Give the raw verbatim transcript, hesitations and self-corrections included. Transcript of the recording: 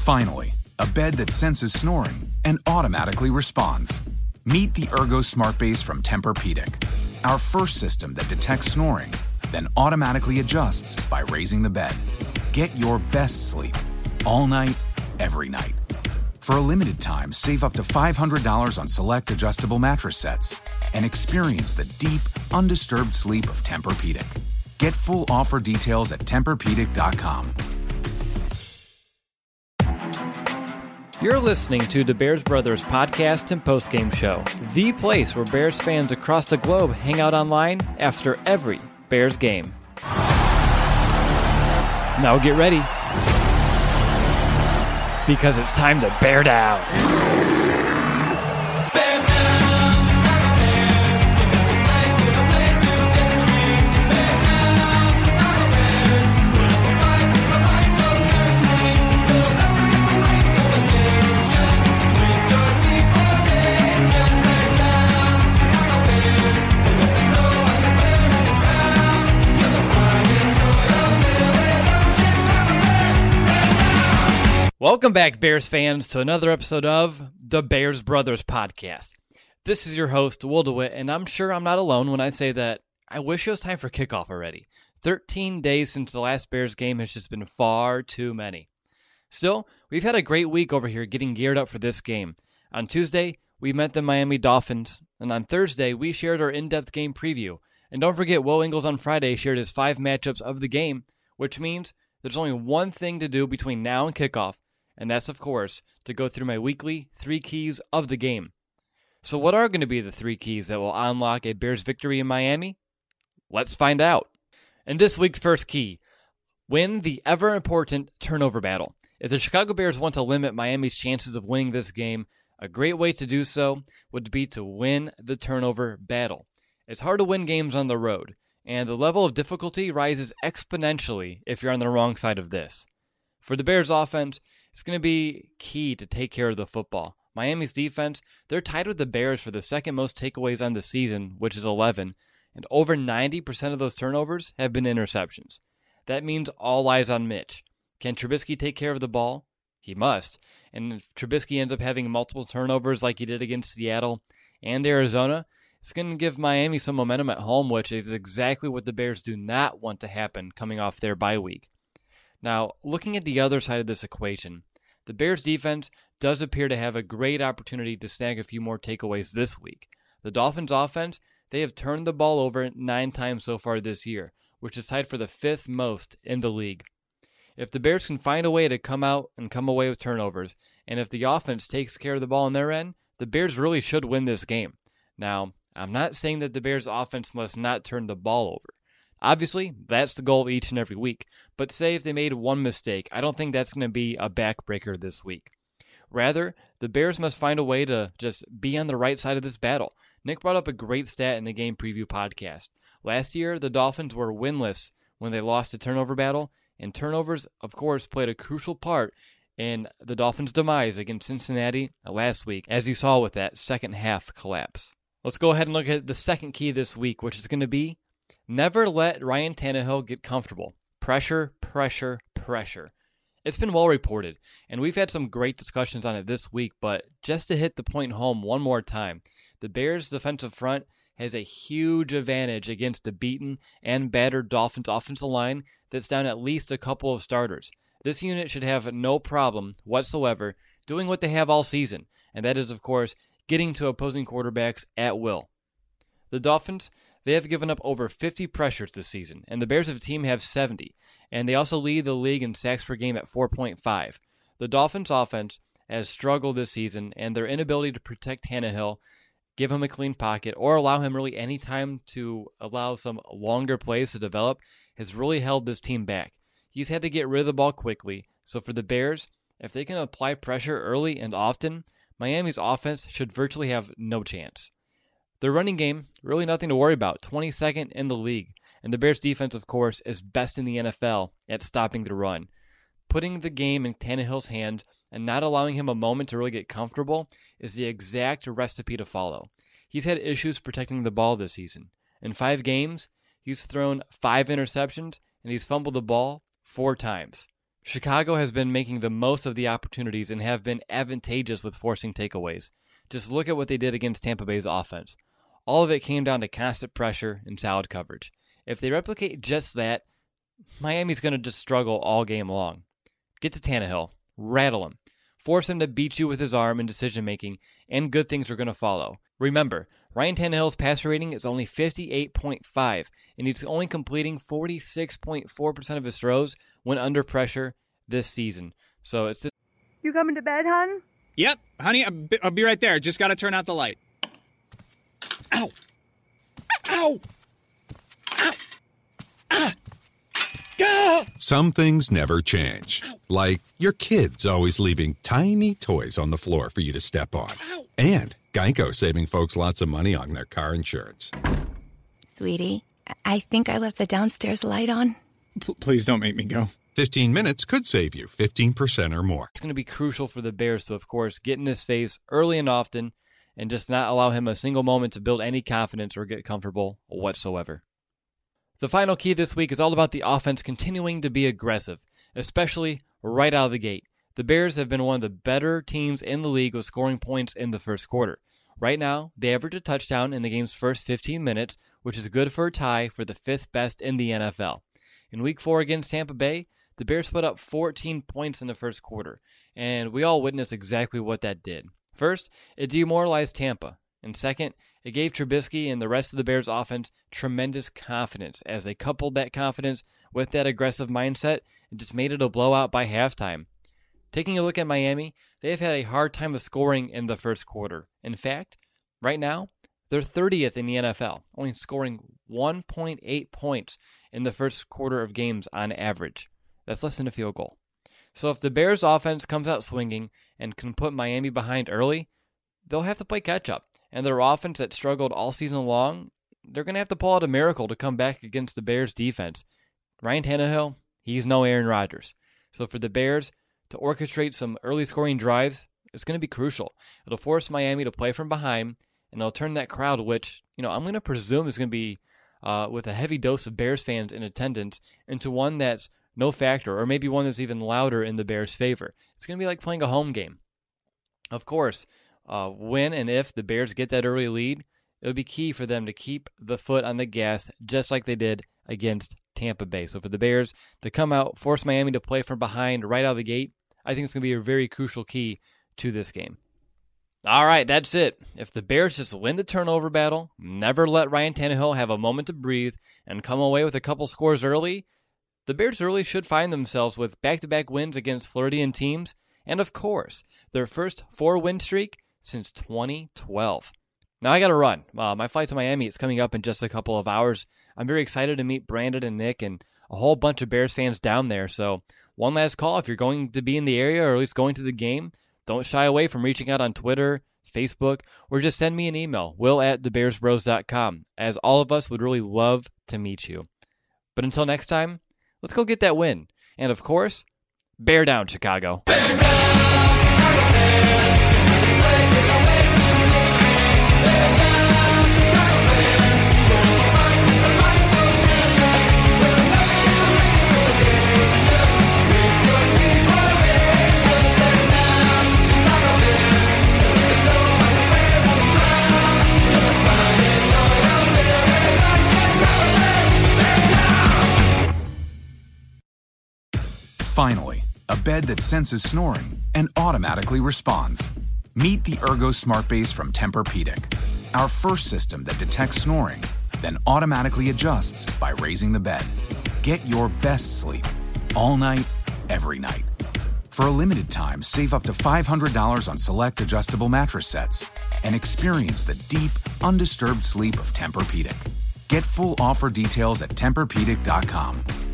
Finally, a bed that senses snoring and automatically responds. Meet the Ergo Smart Base from Tempur-Pedic, our first system that detects snoring, then automatically adjusts by raising the bed. Get your best sleep, all night, every night. For a limited time, save up to five hundred dollars on select adjustable mattress sets and experience the deep, undisturbed sleep of Tempur-Pedic. Get full offer details at Tempur Pedic dot com. You're listening to the Bears Brothers podcast and postgame show, the place where Bears fans across the globe hang out online after every Bears game. Now get ready, because it's time to bear down. Welcome back, Bears fans, to another episode of the Bears Brothers podcast. This is your host, Will DeWitt, and I'm sure I'm not alone when I say that I wish it was time for kickoff already. thirteen days since the last Bears game has just been far too many. Still, we've had a great week over here getting geared up for this game. On Tuesday, we met the Miami Dolphins, and on Thursday, we shared our in-depth game preview. And don't forget, Will Ingles on Friday shared his five matchups of the game, which means there's only one thing to do between now and kickoff, and that's, of course, to go through my weekly three keys of the game. So what are going to be the three keys that will unlock a Bears victory in Miami? Let's find out. In this week's first key, win the ever-important turnover battle. If the Chicago Bears want to limit Miami's chances of winning this game, a great way to do so would be to win the turnover battle. It's hard to win games on the road, and the level of difficulty rises exponentially if you're on the wrong side of this. For the Bears offense, it's going to be key to take care of the football. Miami's defense, they're tied with the Bears for the second most takeaways on the season, which is eleven, and over ninety percent of those turnovers have been interceptions. That means all eyes on Mitch. Can Trubisky take care of the ball? He must. And if Trubisky ends up having multiple turnovers like he did against Seattle and Arizona, it's going to give Miami some momentum at home, which is exactly what the Bears do not want to happen coming off their bye week. Now, looking at the other side of this equation, the Bears defense does appear to have a great opportunity to snag a few more takeaways this week. The Dolphins offense, they have turned the ball over nine times so far this year, which is tied for the fifth most in the league. If the Bears can find a way to come out and come away with turnovers, and if the offense takes care of the ball on their end, the Bears really should win this game. Now, I'm not saying that the Bears offense must not turn the ball over. Obviously, that's the goal each and every week, but say if they made one mistake, I don't think that's going to be a backbreaker this week. Rather, the Bears must find a way to just be on the right side of this battle. Nick brought up a great stat in the game preview podcast. Last year, the Dolphins were winless when they lost the turnover battle, and turnovers, of course, played a crucial part in the Dolphins' demise against Cincinnati last week, as you saw with that second half collapse. Let's go ahead and look at the second key this week, which is going to be never let Ryan Tannehill get comfortable. Pressure, pressure, pressure. It's been well reported, and we've had some great discussions on it this week, but just to hit the point home one more time, the Bears' defensive front has a huge advantage against the beaten and battered Dolphins offensive line that's down at least a couple of starters. This unit should have no problem whatsoever doing what they have all season, and that is, of course, getting to opposing quarterbacks at will. The Dolphins, they have given up over fifty pressures this season, and the Bears as a team have seventy, and they also lead the league in sacks per game at four point five. The Dolphins' offense has struggled this season, and their inability to protect Tannehill, give him a clean pocket, or allow him really any time to allow some longer plays to develop has really held this team back. He's had to get rid of the ball quickly, so for the Bears, if they can apply pressure early and often, Miami's offense should virtually have no chance. Their running game, really nothing to worry about, twenty-second in the league. And the Bears defense, of course, is best in the N F L at stopping the run. Putting the game in Tannehill's hands and not allowing him a moment to really get comfortable is the exact recipe to follow. He's had issues protecting the ball this season. In five games, he's thrown five interceptions and he's fumbled the ball four times. Chicago has been making the most of the opportunities and have been advantageous with forcing takeaways. Just look at what they did against Tampa Bay's offense. All of it came down to constant pressure and solid coverage. If they replicate just that, Miami's going to just struggle all game long. Get to Tannehill, rattle him, force him to beat you with his arm and decision-making, and good things are going to follow. Remember, Ryan Tannehill's passer rating is only fifty-eight point five, and he's only completing forty-six point four percent of his throws when under pressure this season. So it's just... You coming to bed, hon? Yep, honey, I'll be, I'll be right there. Just got to turn out the light. Ow! Ow! Ow! Ah! Ah! Some things never change. Like your kids always leaving tiny toys on the floor for you to step on. Ow! And Geico saving folks lots of money on their car insurance. Sweetie, I think I left the downstairs light on. P- please don't make me go. fifteen minutes could save you fifteen percent or more. It's going to be crucial for the Bears to, of course, get in his face early and often and just not allow him a single moment to build any confidence or get comfortable whatsoever. The final key this week is all about the offense continuing to be aggressive, especially right out of the gate. The Bears have been one of the better teams in the league with scoring points in the first quarter. Right now, they average a touchdown in the game's first fifteen minutes, which is good for a tie for the fifth best in the N F L. In Week four against Tampa Bay, the Bears put up fourteen points in the first quarter, and we all witnessed exactly what that did. First, it demoralized Tampa, and second, it gave Trubisky and the rest of the Bears' offense tremendous confidence as they coupled that confidence with that aggressive mindset and just made it a blowout by halftime. Taking a look at Miami, they have had a hard time of scoring in the first quarter. In fact, right now, they're thirtieth in the N F L, only scoring one point eight points in the first quarter of games on average. That's less than a field goal. So if the Bears' offense comes out swinging and can put Miami behind early, they'll have to play catch-up. And their offense that struggled all season long, they're going to have to pull out a miracle to come back against the Bears' defense. Ryan Tannehill, he's no Aaron Rodgers. So for the Bears to orchestrate some early scoring drives, it's going to be crucial. It'll force Miami to play from behind, and it'll turn that crowd, which, you know, I'm going to presume is going to be uh, with a heavy dose of Bears fans in attendance, into one that's no factor, or maybe one that's even louder in the Bears' favor. It's going to be like playing a home game. Of course, uh, when and if the Bears get that early lead, it would be key for them to keep the foot on the gas, just like they did against Tampa Bay. So for the Bears to come out, force Miami to play from behind right out of the gate, I think it's going to be a very crucial key to this game. All right, that's it. If the Bears just win the turnover battle, never let Ryan Tannehill have a moment to breathe, and come away with a couple scores early, the Bears really should find themselves with back-to-back wins against Floridian teams, and of course, their first four-win streak since twenty twelve. Now I got to run. Uh, my flight to Miami is coming up in just a couple of hours. I'm very excited to meet Brandon and Nick and a whole bunch of Bears fans down there. So one last call, if you're going to be in the area or at least going to the game, don't shy away from reaching out on Twitter, Facebook, or just send me an email, will at the bears bros dot com, as all of us would really love to meet you. But until next time, let's go get that win. And of course, bear down, Chicago. Bear down, Chicago Bears. Finally, a bed that senses snoring and automatically responds. Meet the Ergo Smart Base from Tempur-Pedic, our first system that detects snoring, then automatically adjusts by raising the bed. Get your best sleep all night, every night. For a limited time, save up to five hundred dollars on select adjustable mattress sets and experience the deep, undisturbed sleep of Tempur-Pedic. Get full offer details at Tempur Pedic dot com.